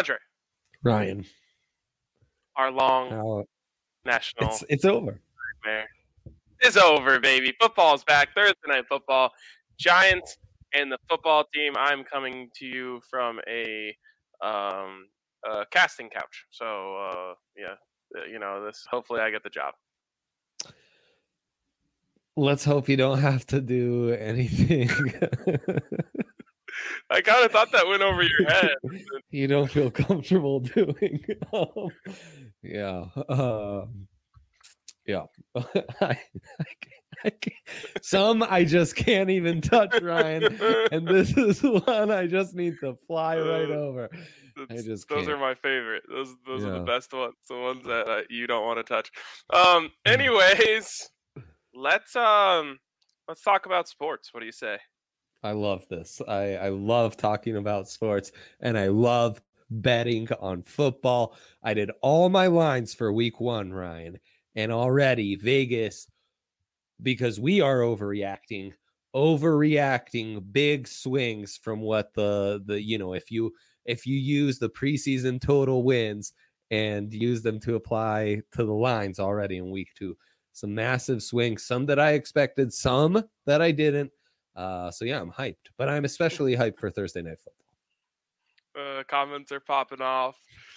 Andre. Ryan. Our long national It's over. nightmare is over, baby. Football's back. Thursday Night Football. Giants and the football team. I'm coming to you from a casting couch. So, this. Hopefully I get the job. Let's hope you don't have to do anything. I kind of thought that went over your head. You don't feel comfortable doing. Yeah. Yeah. Some I just can't even touch, Ryan. And this is one I just need to fly right over. Those are my favorite. Those are the best ones. The ones that you don't want to touch. Anyways, let's talk about sports. What do you say? I love this. I love talking about sports, and I love betting on football. I did all my lines for week 1, Ryan, and already Vegas, because we are overreacting big swings from what the if you use the preseason total wins and use them to apply to the lines already in week 2. Some massive swings, some that I expected, some that I didn't. So yeah, I'm hyped, but I'm especially hyped for Thursday Night Football. Comments are popping off.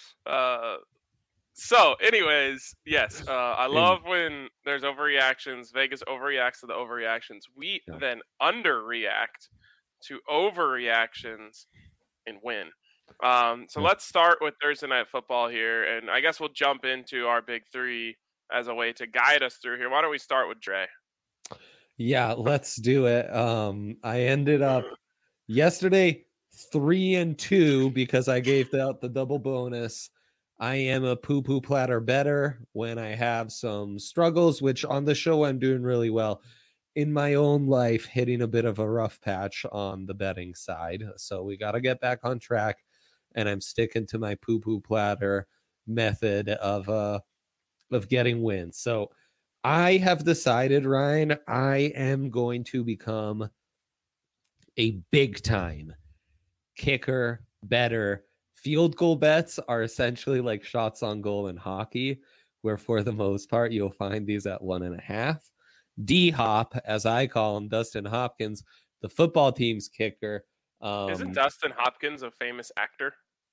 So anyways, yes, I love when there's overreactions. Vegas overreacts to the overreactions. We then underreact to overreactions and win. So let's start with Thursday Night Football here, and I guess we'll jump into our big 3 as a way to guide us through here. Why don't we start with Dre? Yeah, let's do it. I ended up yesterday 3-2 because I gave out the double bonus. I am a poo-poo platter better when I have some struggles, which on the show I'm doing really well. In my own life, hitting a bit of a rough patch on the betting side. So we got to get back on track, and I'm sticking to my poo-poo platter method of getting wins. So I have decided, Ryan, I am going to become a big-time kicker, better. Field goal bets are essentially like shots on goal in hockey, where for the most part, you'll find these at 1.5. D-Hop, as I call him, Dustin Hopkins, the football team's kicker. Isn't Dustin Hopkins a famous actor?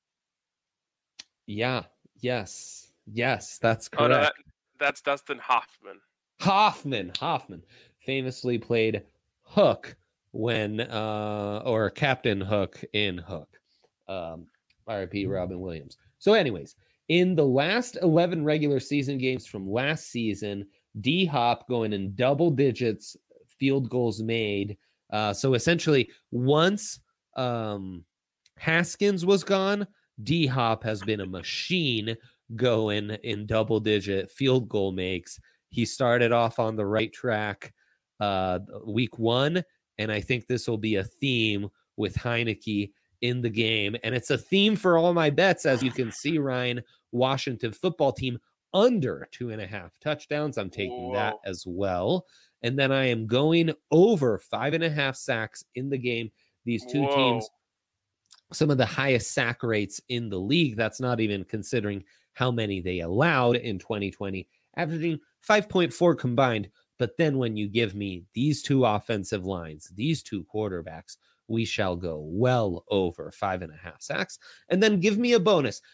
Yeah. Yes, that's correct. Oh, no, that's Dustin Hoffman. Hoffman famously played Hook or Captain Hook in Hook. R.I.P. Robin Williams. So anyways, in the last 11 regular season games from last season, D-Hop going in double digits field goals made. So essentially, once Haskins was gone, D-Hop has been a machine going in double-digit field goal makes. He started off on the right track week 1, and I think this will be a theme with Heineke in the game. And it's a theme for all my bets, as you can see, Ryan. Washington football team under 2.5 touchdowns. I'm taking that as well. And then I am going over 5.5 sacks in the game. These two teams, some of the highest sack rates in the league. That's not even considering how many they allowed in 2020, averaging 5.4 combined. But then when you give me these two offensive lines, these two quarterbacks, we shall go well over 5.5 sacks. And then give me a bonus.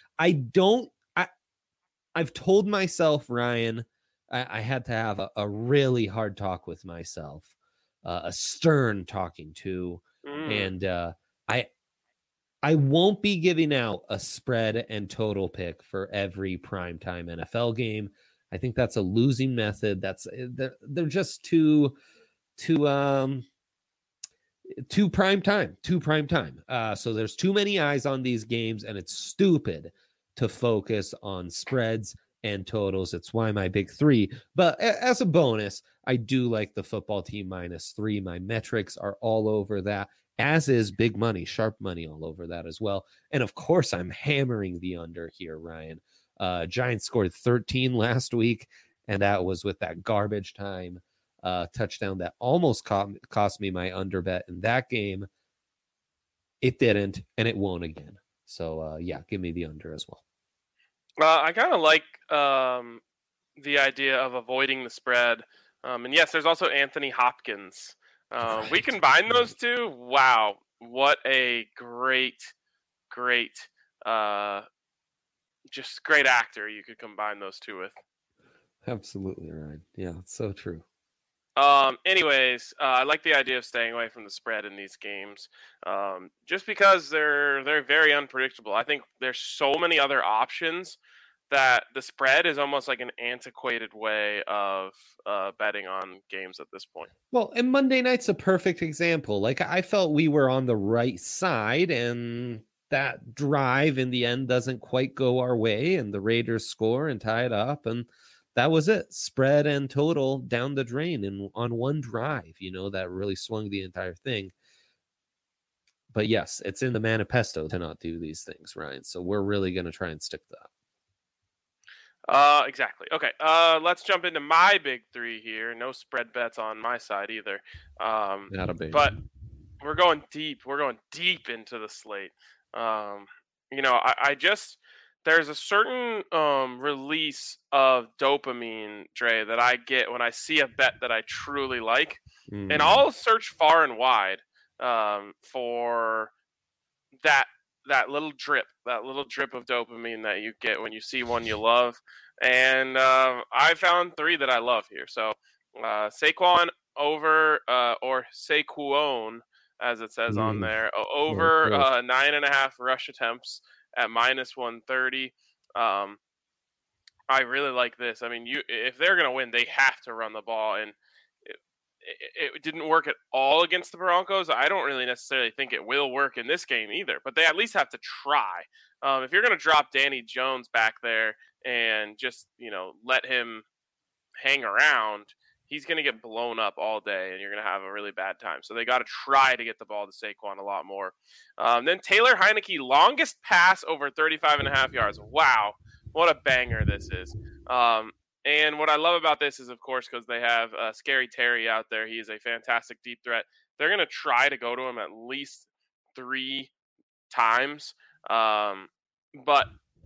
I've told myself, Ryan, I had to have a really hard talk with myself, a stern talking to. And I won't be giving out a spread and total pick for every primetime NFL game. I think that's a losing method. They're just too prime time. So there's too many eyes on these games, and it's stupid to focus on spreads and totals. It's why my big 3. But as a bonus, I do like the football team -3. My metrics are all over that, as is big money, sharp money all over that as well. And of course, I'm hammering the under here, Ryan. Giants scored 13 last week, and that was with that garbage time touchdown that almost cost me my under bet in that game. It didn't, and it won't again. So yeah, give me the under as well. I kind of like the idea of avoiding the spread. And yes, there's also Anthony Hopkins. We combine those two. Wow, what a great, just great actor you could combine those two with. Absolutely, Ryan. Yeah, it's so true. Anyways, I like the idea of staying away from the spread in these games, just because they're very unpredictable. I think there's so many other options that the spread is almost like an antiquated way of betting on games at this point. Well, and Monday night's a perfect example. Like, I felt we were on the right side, and that drive in the end doesn't quite go our way, and the Raiders score and tie it up, and that was it. Spread and total down the drain and on one drive, that really swung the entire thing. But yes, it's in the manifesto to not do these things, Ryan. So we're really going to try and stick to that. Exactly. Okay. Let's jump into my big three here. No spread bets on my side either. Not a big. But we're going deep. We're going deep into the slate. I just there's a certain release of dopamine, Dre, that I get when I see a bet that I truly like, and I'll search far and wide for that little drip of dopamine that you get when you see one you love. And I found three that I love here. So Saquon over or Saquon, as it says on there, over 9.5 rush attempts at -130. I really like this. I mean, if they're going to win, they have to run the ball, and it didn't work at all against the Broncos. I don't really necessarily think it will work in this game either, but they at least have to try. If you're going to drop Danny Jones back there and just, let him hang around, he's going to get blown up all day, and you're going to have a really bad time. So they got to try to get the ball to Saquon a lot more. Then Taylor Heineke, longest pass over 35.5 yards. Wow, what a banger this is. And what I love about this is, of course, because they have Scary Terry out there. He is a fantastic deep threat. They're going to try to go to him at least 3 times. But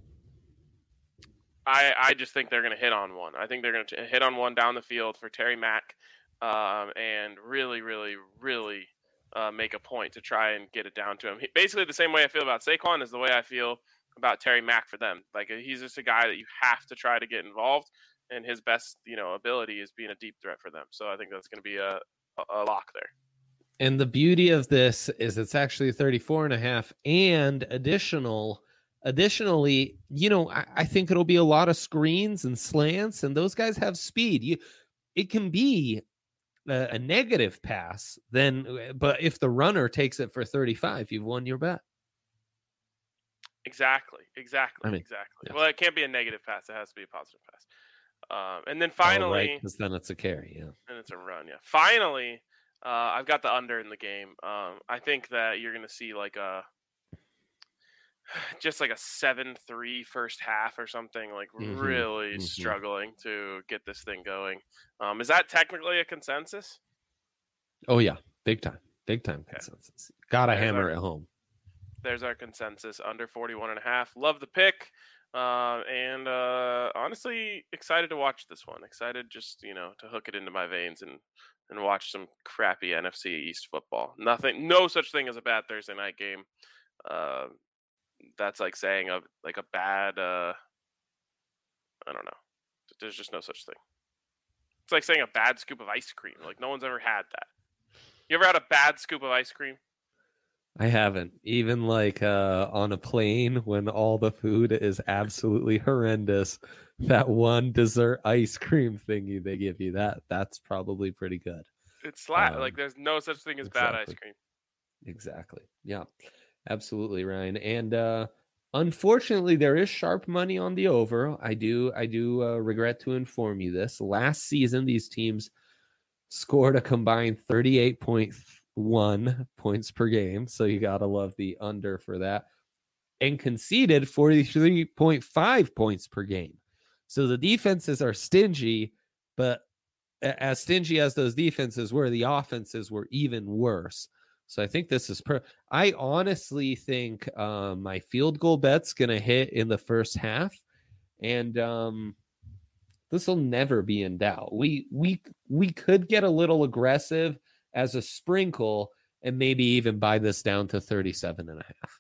I just think they're going to hit on one. I think they're going to hit on one down the field for Terry Mack and really, really, really make a point to try and get it down to him. Basically, the same way I feel about Saquon is the way I feel about Terry Mack for them. Like, he's just a guy that you have to try to get involved, and his best, ability is being a deep threat for them. So I think that's going to be a lock there. And the beauty of this is it's actually 34.5, and additionally, I think it'll be a lot of screens and slants, and those guys have speed. It can be a negative pass but if the runner takes it for 35, you've won your bet. Exactly. Exactly. Yeah. Well, it can't be a negative pass. It has to be a positive pass. And then finally, because then it's a carry, yeah, and it's a run, yeah. Finally, I've got the under in the game. I think that you're going to see like a 7-3 first half or something, like really struggling to get this thing going. Is that technically a consensus? Oh yeah, big time consensus. Gotta hammer it home. There's our consensus, under 41.5. Love the pick. And honestly, excited to watch this one. Excited just, to hook it into my veins and watch some crappy NFC East football. No such thing as a bad Thursday night game. That's like saying a bad, I don't know. There's just no such thing. It's like saying a bad scoop of ice cream. Like, no one's ever had that. You ever had a bad scoop of ice cream? I haven't. Even on a plane when all the food is absolutely horrendous, that one dessert ice cream thingy they give you, that's probably pretty good. It's flat. There's no such thing as bad ice cream. Exactly. Yeah, absolutely, Ryan. And unfortunately, there is sharp money on the over. I do regret to inform you this. Last season, these teams scored a combined 38.1 points per game. So you got to love the under for that. And conceded 43.5 points per game. So the defenses are stingy, but as stingy as those defenses were, the offenses were even worse. So I think this is I honestly think my field goal bet's going to hit in the first half, and this will never be in doubt. We could get a little aggressive as a sprinkle and maybe even buy this down to 37.5.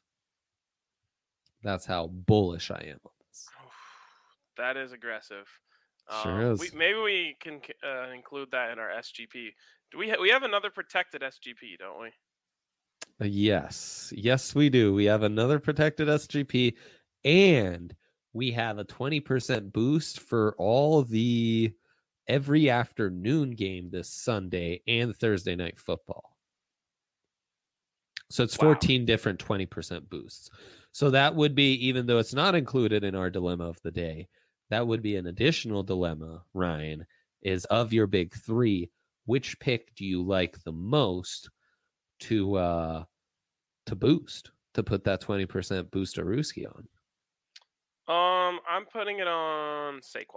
That's how bullish I am on this. That is aggressive. Sure is. Maybe we can include that in our SGP. Do we have another protected SGP, don't we? Yes, we do. We have another protected SGP, and we have a 20% boost for all the every afternoon game this Sunday and Thursday night football. So it's 14 different 20% boosts. So that would be, even though it's not included in our dilemma of the day, that would be an additional dilemma, Ryan, is of your big three, which pick do you like the most to boost, to put that 20% booster Ruski on? I'm putting it on Saquon.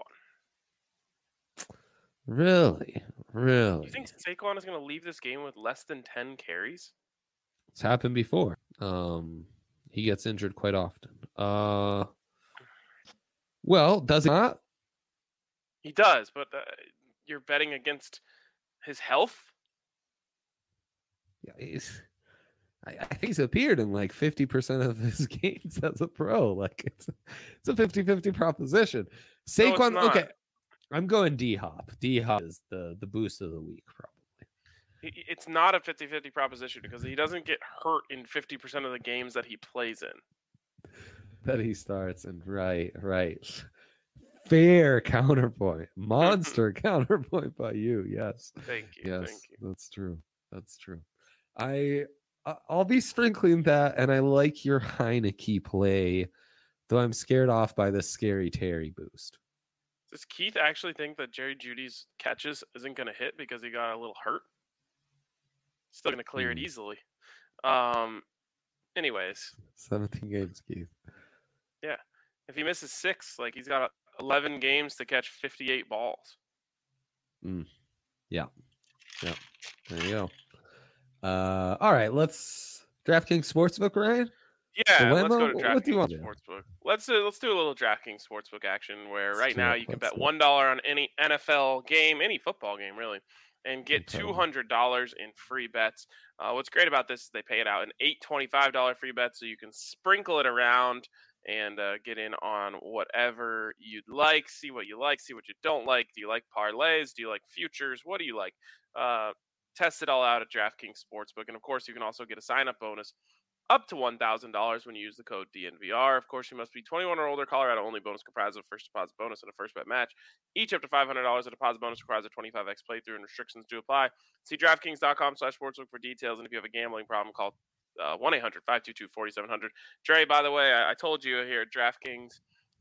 Really? You think Saquon is going to leave this game with less than 10 carries? It's happened before. He gets injured quite often. Well, does it not? He does, but you're betting against his health? Yeah, I think he's appeared in like 50% of his games as a pro. Like it's a 50-50 proposition. Saquon, no, okay. I'm going D-Hop. D-Hop is the boost of the week, probably. It's not a 50-50 proposition because he doesn't get hurt in 50% of the games that he plays in. That he starts in. Right. Fair counterpoint. Monster counterpoint by you. Yes. Thank you. Yes, thank you. That's true. I'll be sprinkling that, and I like your Heineke play, though I'm scared off by the Scary Terry boost. Does Keith actually think that Jerry Jeudy's catches isn't going to hit because he got a little hurt? Still going to clear it easily. Anyways. 17 games, Keith. Yeah. If he misses 6, like he's got 11 games to catch 58 balls. Yeah. There you go. All right, let's DraftKings Sportsbook, Ryan. Yeah, let's go to DraftKings Sportsbook. Let's do a little DraftKings Sportsbook action where right now you can bet $1 on any NFL game, any football game really, and get $200 in free bets. What's great about this is they pay it out in $825 free bets, so you can sprinkle it around and get in on whatever you'd like, see what you don't like. Do you like parlays? Do you like futures? What do you like? Test it all out at DraftKings Sportsbook. And, of course, you can also get a sign-up bonus up to $1,000 when you use the code DNVR. Of course, you must be 21 or older. Colorado-only bonus comprised of a first deposit bonus and a first bet match. Each up to $500. A deposit bonus requires a 25x playthrough, and restrictions do apply. See DraftKings.com/sportsbook for details. And if you have a gambling problem, call 1-800-522-4700. Dre, by the way, I told you here at DraftKings,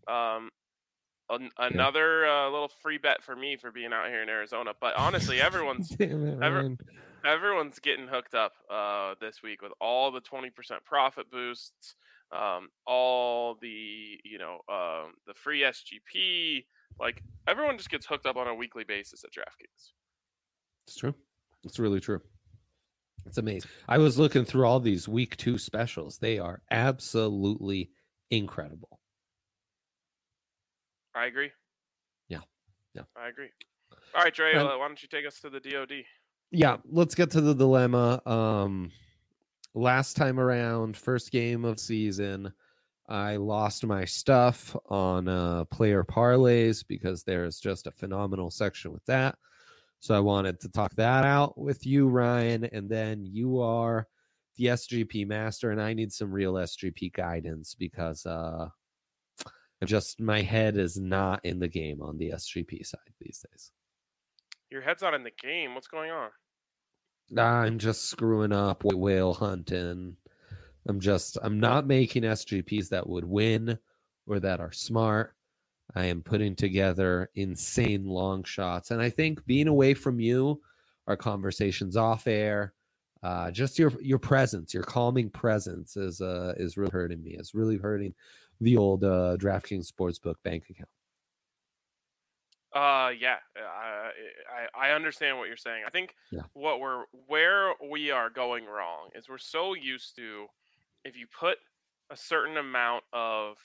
another little free bet for me for being out here in Arizona. But honestly, everyone's getting hooked up this week with all the 20% profit boosts, all the the free SGP. Like everyone just gets hooked up on a weekly basis at DraftKings. It's true. It's really true. It's amazing. I was looking through all these week 2 specials. They are absolutely incredible. I agree. Yeah. I agree. All right, Dre, why don't you take us to the DOD? Yeah, let's get to the dilemma. Last time around, first game of season, I lost my stuff on player parlays because there's just a phenomenal section with that. So I wanted to talk that out with you, Ryan, and then you are the SGP master, and I need some real SGP guidance because my head is not in the game on the SGP side these days. Your head's not in the game. What's going on? I'm just screwing up whale hunting. I'm not making SGPs that would win or that are smart. I am putting together insane long shots. And I think being away from you, our conversations off air, just your presence, your calming presence is really hurting me. It's really hurting the old DraftKings Sportsbook bank account. Yeah, I understand what you're saying. I think Yeah. where we are going wrong is we're so used to, if you put a certain amount of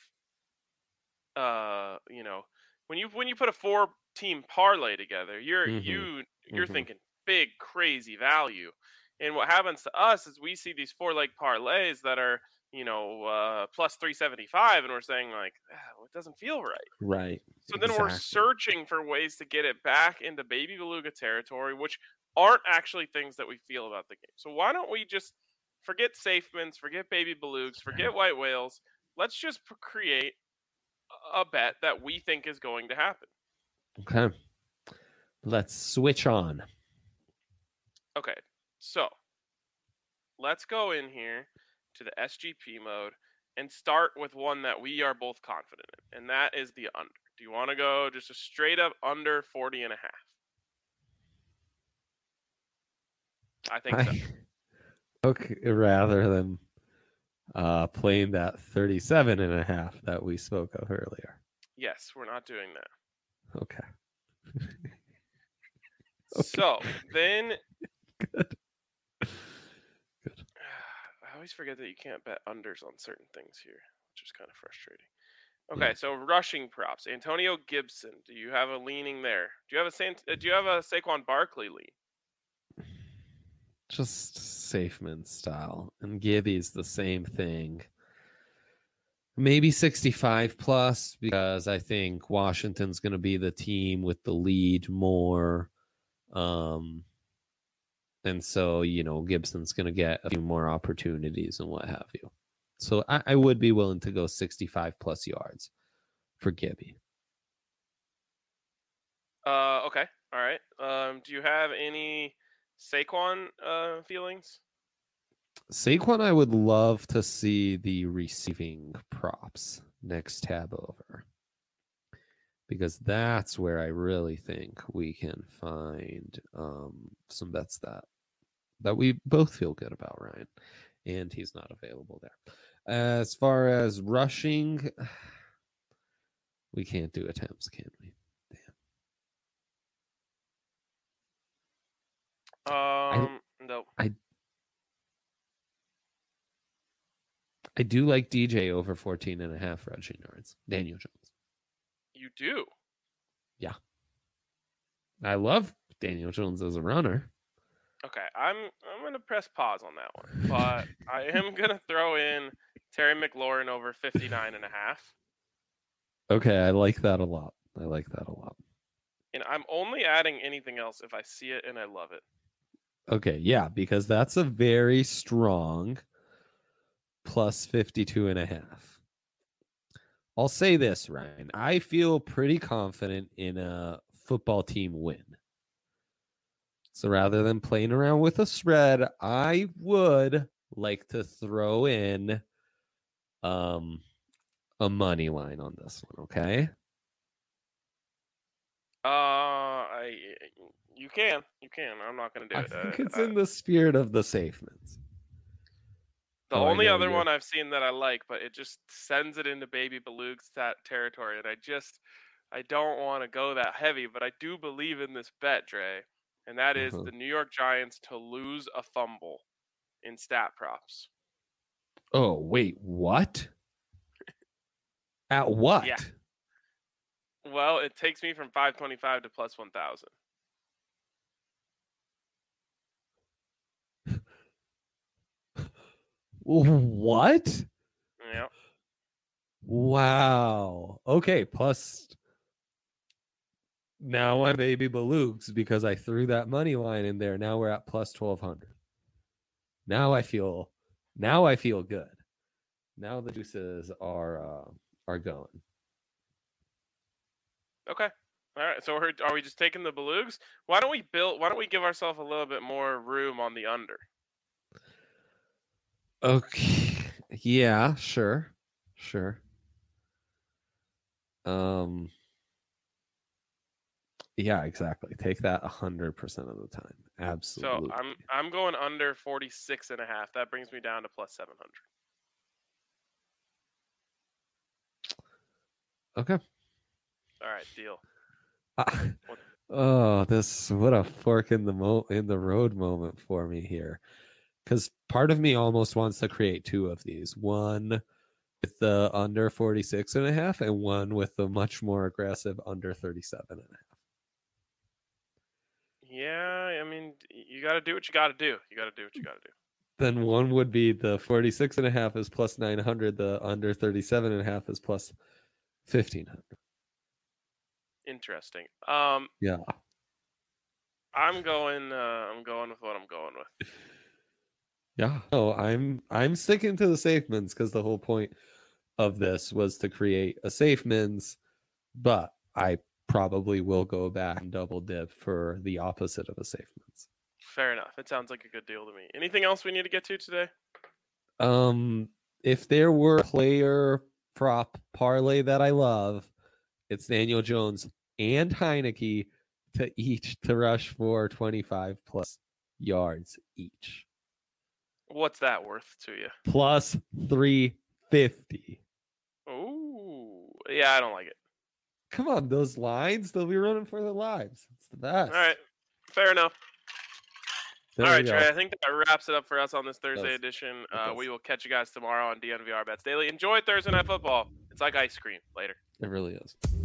you know, when you put a four team parlay together, Mm-hmm. you're Mm-hmm. thinking big crazy value. And what happens to us is we see these four leg parlays that are, plus 375, and we're saying like, well, it doesn't feel right. Right. So then we're Exactly. searching for ways to get it back into baby beluga territory, which aren't actually things that we feel about the game. So why don't we just forget safemans, forget baby belugas, forget white whales? Let's just create a bet that we think is going to happen. Okay. Let's switch on. Okay, so let's go in here to the SGP mode and start with one that we are both confident in, and that is the under. Do you want to go just a straight up under 40 and a half? I think so. Okay, rather than playing that 37 and a half that we spoke of earlier. Yes, we're not doing that. Okay. So then, Good. Good. I always forget that you can't bet unders on certain things here, which is kind of frustrating. Okay, so rushing props. Antonio Gibson. Do you have a leaning there? Do you have a Saquon Barkley lean? Just Safeman style. And Gibby's the same thing. Maybe 65 plus, because I think Washington's going to be the team with the lead more. And so, Gibson's going to get a few more opportunities and what have you. So I would be willing to go 65 plus yards for Gibby. Okay. All right. Do you have any Saquon feelings? Saquon, I would love to see the receiving props next tab over, because that's where I really think we can find some bets that we both feel good about, Ryan. And he's not available there. As far as rushing, we can't do attempts, can we? Damn. No. I do like DJ over 14 and a half rushing yards. Daniel Jones. You do? Yeah. I love Daniel Jones as a runner. Okay, I'm gonna press pause on that one, but I am gonna throw in Terry McLaurin over 59 and a half. Okay, I like that a lot. And I'm only adding anything else if I see it and I love it. Okay, yeah, because that's a very strong plus 52 and a half. I'll say this, Ryan. I feel pretty confident in a football team win. So rather than playing around with a spread, I would like to throw in a money line on this one, okay? You can. I'm not gonna do I it. think it's in the spirit of the Safemans. The only other one I've seen that I like, but it just sends it into baby belugs territory, and I don't want to go that heavy, but I do believe in this bet, Dre, and that is the New York Giants to lose a fumble in stat props. Oh, wait, what? At what? Yeah. Well, it takes me from 525 to plus 1,000. What? Yeah. Wow. Okay, plus now I'm baby belugs because I threw that money line in there. Now we're at plus 1,200. Now I feel good. Now the juices are going. Okay. All right. So are we just taking the belugs? Why don't we give ourselves a little bit more room on the under? Okay. Yeah, sure. Yeah, exactly. Take that 100% of the time. Absolutely. So I'm going under 46 and a half. That brings me down to plus 700. Okay. All right, deal. Oh, what a fork in the road moment for me here. Because part of me almost wants to create two of these. One with the under 46.5 and one with the much more aggressive under 37.5. Yeah, I mean, you got to do what you got to do. You got to do what you got to do. Then one would be the 46.5 is plus 900. The under 37.5 is plus 1,500. Interesting. Yeah. I'm going with what I'm going with. Yeah. Oh, I'm sticking to the safe mins because the whole point of this was to create a safe mins, but I probably will go back and double dip for the opposite of a safe mins. Fair enough. It sounds like a good deal to me. Anything else we need to get to today? If there were a player prop parlay that I love, it's Daniel Jones and Heineke to rush for 25 plus yards each. What's that worth to you? Plus 350. Ooh, yeah, I don't like it. Come on, those lines, they'll be running for their lives. It's the best. All right, fair enough. All right, Trey, I think that wraps it up for us on this Thursday edition. We will catch you guys tomorrow on DNVR Bets Daily. Enjoy Thursday Night Football. It's like ice cream. Later. It really is.